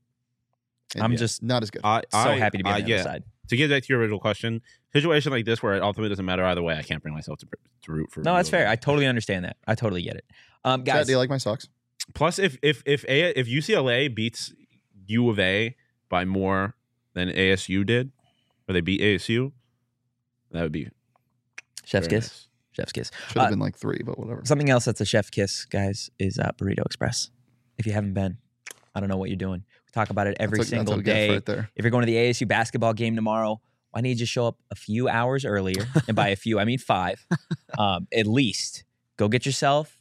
And I'm yeah, just not as good. I, so I, happy to be I, on the yeah. other side. To get back to your original question, situation like this where it ultimately doesn't matter either way, I can't bring myself to, to root for. No, that's U of A. fair. I totally understand that. I totally get it. Um, Chat, guys, do you like my socks? Plus, if if if a, if U C L A beats U of A by more than A S U did, or they beat A S U, that would be chef's very kiss. nice. Chef's kiss. Should have Uh, been like three, but whatever. Something else that's a chef kiss, guys, is uh, Burrito Express. If you haven't been, I don't know what you're doing. We talk about it every That's a- that's single a gift day. right there. If you're going to the A S U basketball game tomorrow, why don't you just show up a few hours earlier? And by a few, I mean five, um, at least. Go get yourself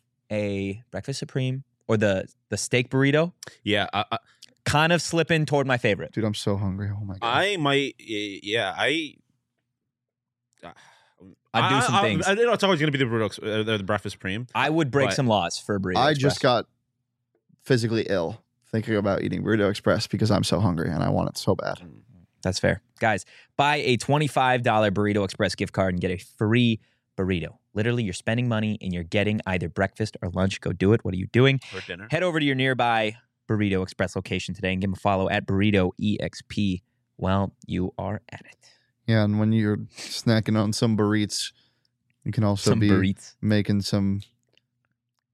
a breakfast supreme or the the steak burrito. Yeah, I, I, Kind of slipping toward my favorite. Dude, I'm so hungry. Oh my god. I might. Yeah, I. I'd do some I, things. I, I know it's always going to be the burrito, uh, the, the breakfast supreme. I would break But- some laws for a burrito. I Express. just got physically ill thinking about eating Burrito Express because I'm so hungry and I want it so bad. That's fair. Guys, buy a twenty-five dollars Burrito Express gift card and get a free burrito. Literally, you're spending money and you're getting either breakfast or lunch. Go do it. What are you doing? For dinner. Head over to your nearby Burrito Express location today and give them a follow at Burrito E X P while you are at it. Yeah, and when you're snacking on some burritos, you can also Some be burritos. making some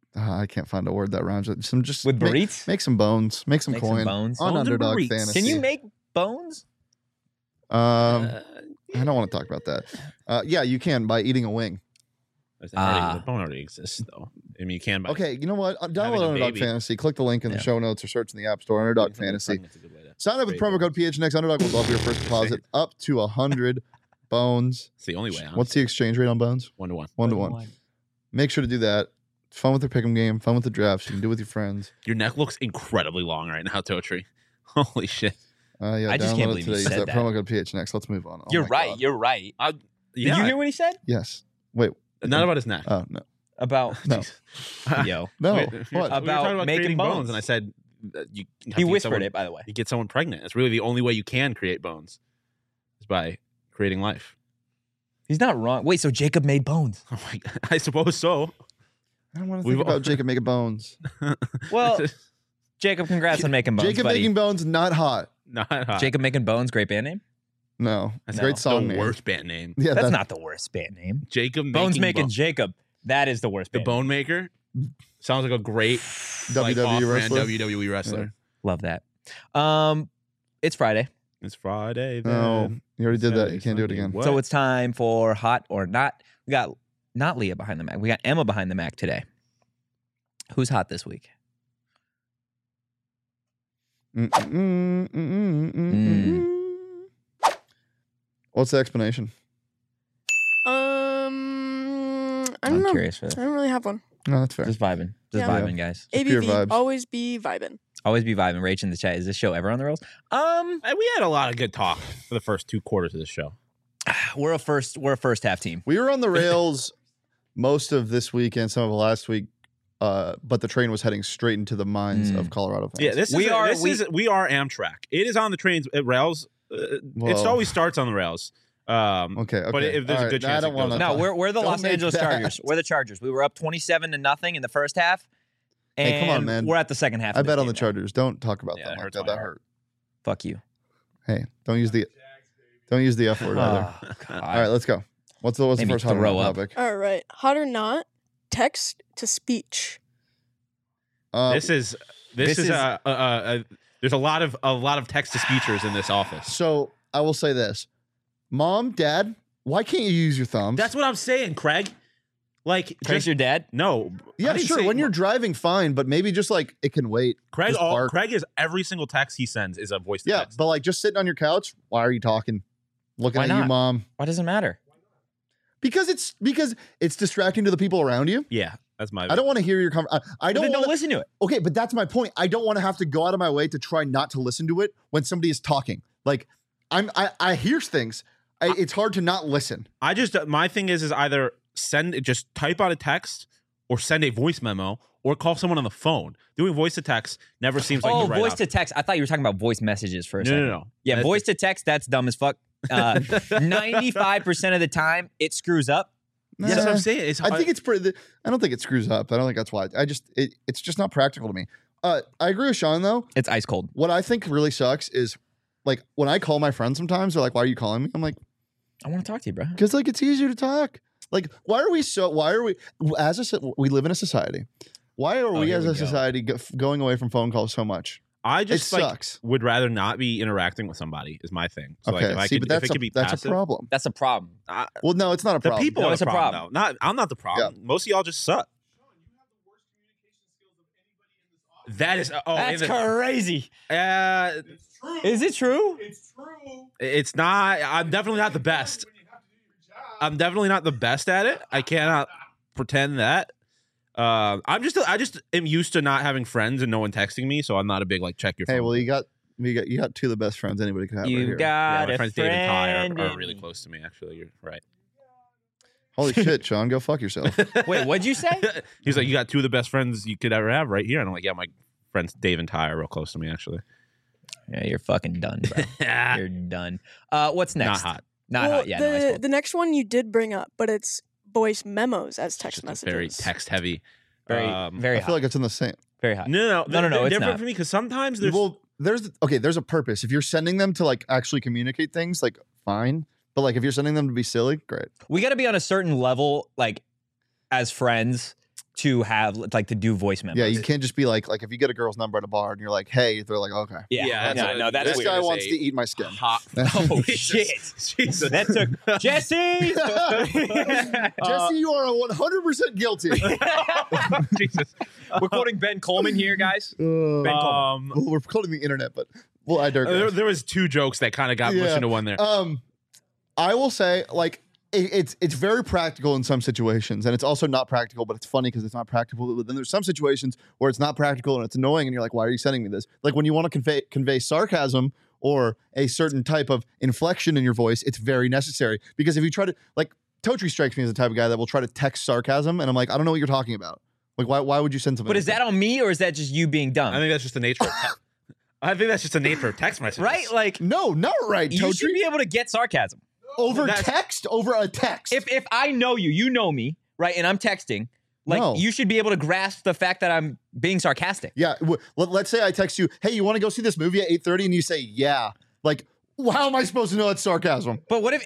uh, I can't find a word that rhymes with some. Just With make, burritos? make some bones, make some Make some coin bones. on Bones and Underdog burritos. Fantasy. Can you make bones? Um, Uh, I don't want to talk about that. Uh, yeah, you can by eating a wing. There's already- Ah. the bone already exists, though. I mean, you can buy. Okay, you know what? Uh, Having Download a Underdog baby. Fantasy. Click the link in the Yeah. show notes or search in the App Store. Underdog Fantasy. That's a good way to- Sign up with Great promo code P H N X. Underdog will double your first deposit up to a hundred bones. It's the only way. What's the exchange rate on bones? one to one? One to one. Make sure to do that. Fun with the pick'em game. Fun with the drafts. You can do it with your friends. Your neck looks incredibly long right now, Totri. Holy shit! Uh, yeah, I just can't download believe it you today. Use said that that. promo code P H N X. Let's move on. Oh You're my right. God. You're right. I, Did yeah, you hear what he said Yes. Wait. Not about his neck. Oh no. about No. yo? No. Wait, we were What? talking About making creating bones. and I said uh, you. have to He get whispered someone- it, by the way. You get someone pregnant. It's really the only way you can create bones, is by creating life. He's not wrong. Wait, so Jacob made bones? Oh my God. I suppose so. I don't want to We've think all- about Jacob making bones. Well, Jacob, congrats on making bones, Jacob buddy. making bones, not hot. not hot. Jacob making bones, great band name. No. That's Great the song name. worst band name. Yeah, That's that- not the worst band name. Jacob Bones making, making Bo- Jacob. That is the worst the band. Bone Maker. Sounds like a great W W E like, off-brand wrestler. W W E wrestler. Love that. Um, it's Friday, It's Friday. No, Then. you already did that. Saturday, You can't do it Sunday. again. What? so it's time for hot or not. We got not Leah behind the Mac. We got Emma behind the Mac today. Who's hot this week? Mm, mm, mm, mm, mm, mm. What's the explanation? Um, I I'm don't know. curious for I this. don't really have one. No, that's fair. Just vibing. Just Yeah. vibing, guys. Just pure A B V, vibes. always be vibing. Always be vibing. Rach in the chat. Is this show ever on the rails? Um, Uh, we had a lot of good talk for the first two quarters of the show. we're a first. We're a first half team. We were on the rails most of this week and some of last week, uh, but the train was heading straight into the minds Mm. of Colorado fans. Yeah, this We is are- This we- is we are Amtrak. It is on the trains at rails. Uh, it Whoa. always starts on the rails. Um, Okay, okay. But if there's All a right, good I chance, don't it wanna goes No, talk. we're we're the Don't Los make Angeles that. Chargers. We're the Chargers. We were up twenty-seven to nothing in the first half. And Hey, come on, man. We're at the second half. I of this bet on game the now. Chargers. Don't talk about Yeah, them it like hurts that. my That heart. hurt. Fuck you. Hey, don't use the don't use the F word either. Oh, God. All right, let's go. What's the what's the Made me first hot or throw not up. topic? All right. Hot or not, text to speech. Uh, this is this, this is, is- a, a, a, a there's a lot of a lot of text to speechers in this office. so I will say this, Mom, Dad, why can't you use your thumbs? That's what I'm saying, Craig. Like, Text just, your dad. no. I yeah, didn't sure. say- When you're driving, fine, but maybe just like it can wait. Craig, just all, bark. Craig is every single text he sends is a voice to Yeah, text. but like just sitting on your couch. Why are you talking? Looking Why at you, not? Mom. Why does it matter? Because it's because it's distracting to the people around you. yeah, that's my. I don't want to hear your conversation. I, I don't Then want don't listen to it. Okay, but that's my point. I don't want to have to go out of my way to try not to listen to it when somebody is talking. Like I'm, I, I hear things. I, it's hard to not listen. I just my thing is is either send just type out a text or send a voice memo or call someone on the phone. Doing voice to text never seems like oh, the right voice option. to text. I thought you were talking about voice messages for a No, second. no, no. Yeah, That's- voice to text. That's dumb as fuck. Uh, Ninety-five percent of the time, it screws up. That's what Nah. I'm saying. It's I think it's pretty. I don't think it screws up. I don't think that's why. I just it, it's just not practical to me. Uh, I agree with Sean though. It's ice cold. What I think really sucks is like when I call my friends sometimes they're like, "Why are you calling me?" I'm like, I want to talk to you, bro. "Because like it's easier to talk." Like, why are we so? Why are we as a so- we live in a society? Why are Oh, we here as we a go. society go, going away from phone calls so much? I It just like sucks. would rather not be interacting with somebody is my thing. So like Okay, if I see, could, but that's if it a, could be that's passive, a problem. That's a problem. I, Well, no, it's not a the problem. people No, are it's the a problem. problem. Though. Not I'm not the problem. Most of y'all just suck. That is oh, That's in the- crazy. uh, Is it true? it's not. I'm definitely not the best. I'm definitely not the best at it. I cannot pretend that. Uh, I'm just. I just am used to not having friends and no one texting me, so I'm not a big like check your phone. Hey, well, you got you got you got two of the best friends anybody could have. right You here. yeah, got my a friends Dave and Ty friend are, are in really me. close to me. Actually, you're right. Holy shit, Sean, go fuck yourself. Wait, what'd you say? He's like, you got two of the best friends you could ever have right here, and I'm like, yeah, my friends Dave and Ty are real close to me. Actually, Yeah, you're fucking done, bro. You're done. Uh, what's not next? hot. Not well, hot. Yeah, the, no, ice cold. the next one you did bring up, but it's voice memos as text Just a messages. very text heavy. Very, um, very I hot. feel like it's in the same. very hot. No, no, No, no, no, They're it's different not. for me because sometimes there's Well, there's okay. There's a purpose. If you're sending them to like actually communicate things, like fine. But like if you're sending them to be silly, great. We got to be on a certain level, like as friends, to have like to do voice memos. Yeah, you can't just be like like if you get a girl's number at a bar and you're like, hey, they're like, okay, Yeah, Yeah, no, that's no, a- that's this weird. guy is wants a to eat my skin. Hot. Oh Jesus. shit! Jesus. That took Jesse. Jesse, you are one hundred percent guilty. Jesus. We're quoting Ben Coleman here, guys. Uh, Um, well, we're quoting the internet, but well, I there, digress. there was two jokes that kind of got Yeah. mushed into one there. Um, I will say, like, it, it's it's very practical in some situations, and it's also not practical, but it's funny because it's not practical. But then there's some situations where it's not practical and it's annoying, and you're like, why are you sending me this? Like when you want to convey convey sarcasm or a certain type of inflection in your voice, it's very necessary because if you try to like. Totri strikes me as the type of guy that will try to text sarcasm, and I'm like, I don't know what you're talking about. Like, why, why would you send something? But is that on me or is that just you being dumb? I think that's just the nature of text. I think that's just the nature of text messages. right? Like no, not right, you should Totri. be able to get sarcasm. Over That's- text, over a text. If if I know you, you know me, right? And I'm texting, like No. you should be able to grasp the fact that I'm being sarcastic. yeah, w- let, let's say I text you, hey, you want to go see this movie at eight thirty, and you say, yeah. Like, well, how am I supposed to know that's sarcasm? But what if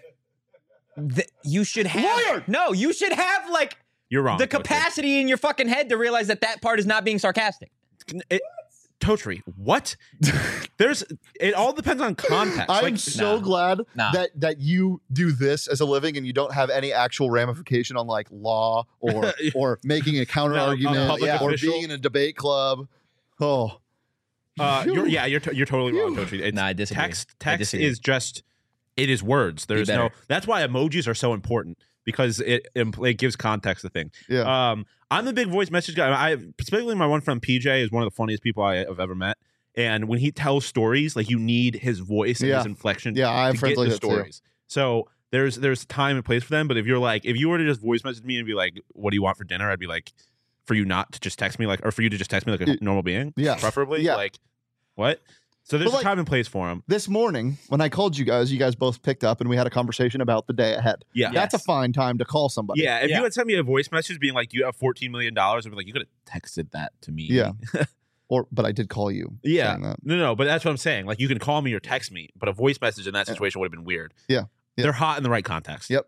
th- you should have Liar! No, you should have like You're wrong. the Totri. capacity in your fucking head to realize that that part is not being sarcastic. It, Totri, what? There's. It all depends on context. I'm Like, so nah. glad Nah. that that you do this as a living and you don't have any actual ramification on like law or or making a counter No, a argument public or official. being in a debate club. Oh, Uh, you're, yeah, you're t- you're totally wrong, Totri. It's, Nah, I disagree. Text I text disagree. is just it is words. There's no. better. That's why emojis are so important because it impl- it gives context to things. yeah. Um, I'm a big voice message guy. I particularly my one friend P J is one of the funniest people I have ever met. And when he tells stories, like you need his voice and Yeah. his inflection. Yeah, I have to friends get like the that too. stories. So there's there's time and place for them. But if you're like, if you were to just voice message me and be like, "What do you want for dinner?" I'd be like, for you not to just text me, like, or for you to just text me like a Y- normal being, yeah. preferably. Yeah. Like, what? So there's But, like- a time and place for him. This morning, when I called you guys, you guys both picked up and we had a conversation about the day ahead. Yeah. That's a fine time to call somebody. Yeah, if Yeah. you had sent me a voice message being like, "You have fourteen million dollars," I'd be like, "You could have texted that to me." Yeah. Or, but I did call you. yeah. saying that. No, no, but that's what I'm saying. Like, you can call me or text me, but a voice message in that situation would have been weird. Yeah. Yeah. They're hot in the right context. Yep.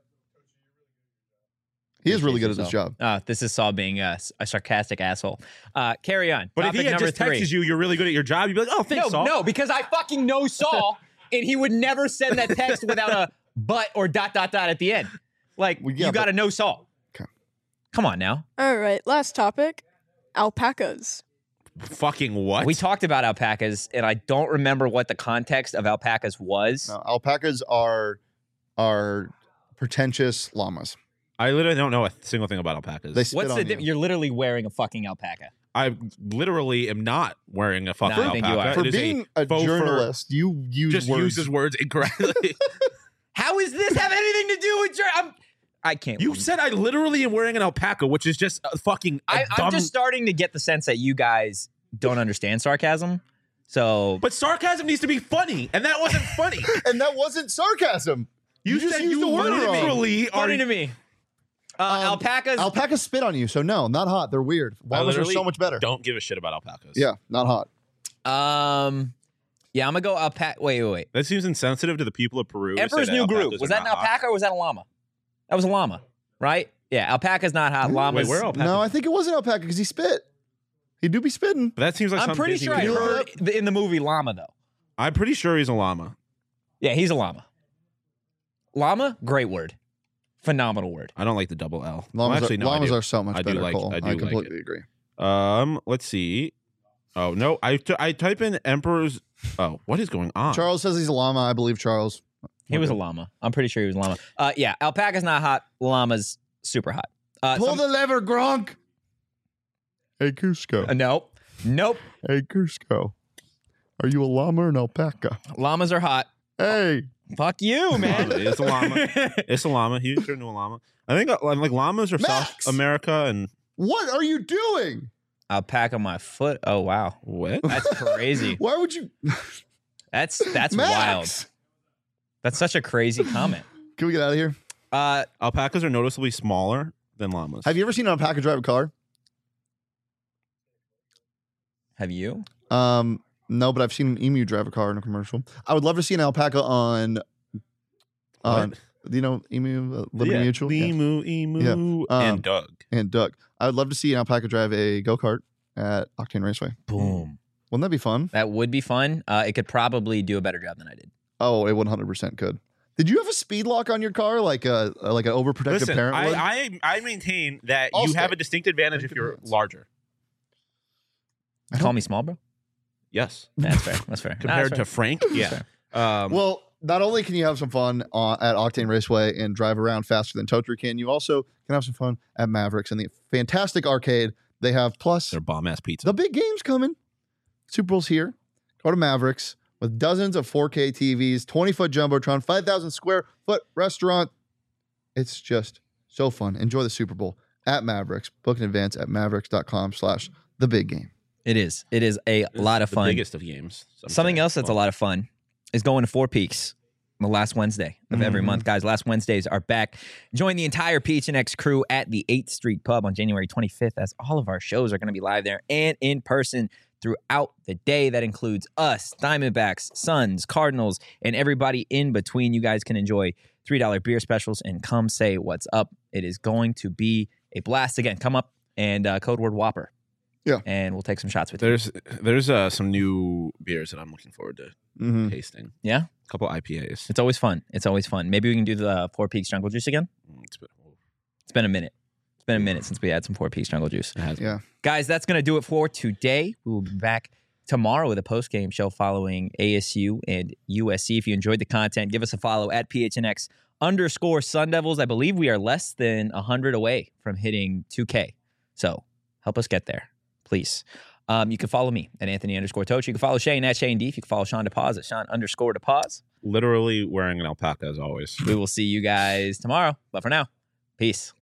He is really good at his job. Uh, this is Saul being a, a sarcastic asshole. Uh, carry on. But Topic if he had number just three. texted you, "You're really good at your job," you'd be like, "Oh, thanks, no, Saul." no, because I fucking know Saul, and he would never send that text without a but or dot dot dot at the end. Like Well, yeah, you got to know Saul. Okay. Come on now. All right, last topic. Alpacas. Fucking what? We talked about alpacas, and I don't remember what the context of alpacas was. No, alpacas are are pretentious llamas. I literally don't know a single thing about alpacas. They spit What's on the? you. Di- you're literally wearing a fucking alpaca. I literally am not wearing a fucking No, I think you alpaca. are. For It is being a, faux fur. journalist, you use just words. uses words incorrectly. How is this have anything to do with your? I'm, I can't. You said I literally am wearing an alpaca, which is just a fucking. a I, dumb, I'm just starting to get the sense that you guys don't understand sarcasm. So But sarcasm needs to be funny, and that wasn't funny. and that wasn't sarcasm. You, You just said used you the word wrong. literally are. funny to me. Uh, Um, alpacas. Alpacas spit on you, so no, not hot. They're weird. I Llamas are literally so much better. Don't give a shit about alpacas. Yeah, not hot. um, yeah, I'm gonna go alpaca. Wait, wait, wait. That seems insensitive to the people of Peru. to say Emperor's that New Groove. alpacas Was are that an not hot. alpaca or was that a llama? That was a llama, right? Yeah, alpaca's not hot. Ooh, Llamas. Wait, where are alpacas? No, I think it was an alpaca because he spit. He do be spitting. But that seems like I'm something pretty Disney sure would I do. heard the- in the movie llama though. I'm pretty sure he's a llama. Yeah, he's a llama. Llama, great word, phenomenal word. I don't like the double L. Llamas, well, actually, are, no, I llamas do. are so much I do better, like- Cole. I I, do like completely it. agree. Um, let's see. Oh no, I t- I type in Emperor's. Oh, what is going on? Charles says he's a llama. I believe Charles. He was a llama. I'm pretty sure he was a llama. Uh, yeah, alpaca's not hot. Llama's super hot. Uh, Pull some- the lever, Gronk. Hey, Cusco. uh, nope, nope. Hey, Cusco. Are you a llama or an alpaca? Llamas are hot. Hey. Fuck you, man. It's a llama. It's a llama. He turned into a llama. I think uh, like llamas are Max! South America and What are you doing? Alpaca my foot. Oh wow, what? that's crazy. Why would you? That's that's wild. Max! That's such a crazy comment. Can we get out of here? Uh, Alpacas are noticeably smaller than llamas. Have you ever seen an alpaca drive a car? have you? Um, no, but I've seen an emu drive a car in a commercial. I would love to see an alpaca on. on Do you know Emu uh, Liberty yeah. Mutual? Yeah. Emu, Emu, Yeah. Um, and Doug. And Doug. I would love to see an alpaca drive a go kart at Octane Raceway. Boom. Wouldn't that be fun? That would be fun. Uh, it could probably do a better job than I did. Oh, it one hundred percent could. Did you have a speed lock on your car, like a like an overprotective Listen, parent would? I, I I maintain that I'll you have stay. a distinct advantage if you're Depends. larger. I Call don't- me small, bro. Yes, That's fair. That's fair. Nah, compared that's to fair. Frank. That's Yeah. fair. Um, Well, not only can you have some fun uh, at Octane Raceway and drive around faster than Toter can, you also can have some fun at Mavericks and the fantastic arcade they have. Plus, they're bomb ass pizza. the big game's coming. Super Bowl's here. Go to Mavericks with dozens of four K T Vs, twenty foot Jumbotron, five thousand square foot restaurant. It's just so fun. Enjoy the Super Bowl at Mavericks. Book in advance at mavericks.com slash the big game. It is. It is a It's lot of the fun. biggest of games. some Something say. else that's a Well, lot of fun is going to Four Peaks the last Wednesday of every Mhm. month. Guys, last Wednesdays are back. Join the entire P H N X crew at the eighth Street Pub on January twenty-fifth, as all of our shows are going to be live there and in person throughout the day. That includes us, Diamondbacks, Suns, Cardinals, and everybody in between. You guys can enjoy three dollar beer specials and come say what's up. It is going to be a blast. Again, come up and uh, code word Whopper. Yeah. And we'll take some shots with you. There's there's uh, some new beers that I'm looking forward to Mm-hmm. tasting. Yeah? A couple I P As. It's always fun. It's always fun. Maybe we can do the Four Peaks Jungle Juice again. Mm, It's been, It's been a minute. It's been a minute since we had some Four Peaks Jungle Juice. it has been. Yeah. Guys, that's going to do it for today. We will be back tomorrow with a post-game show following A S U and U S C. If you enjoyed the content, give us a follow at P H N X underscore Sun Devils. I believe we are less than one hundred away from hitting two K. So help us get there, please. Um, you can follow me at Anthony underscore Toach. You can follow Shane at Shane Deef. You can follow Sean DePaz at Sean underscore DePaz. Literally wearing an alpaca as always. We will see you guys tomorrow. But for now, peace.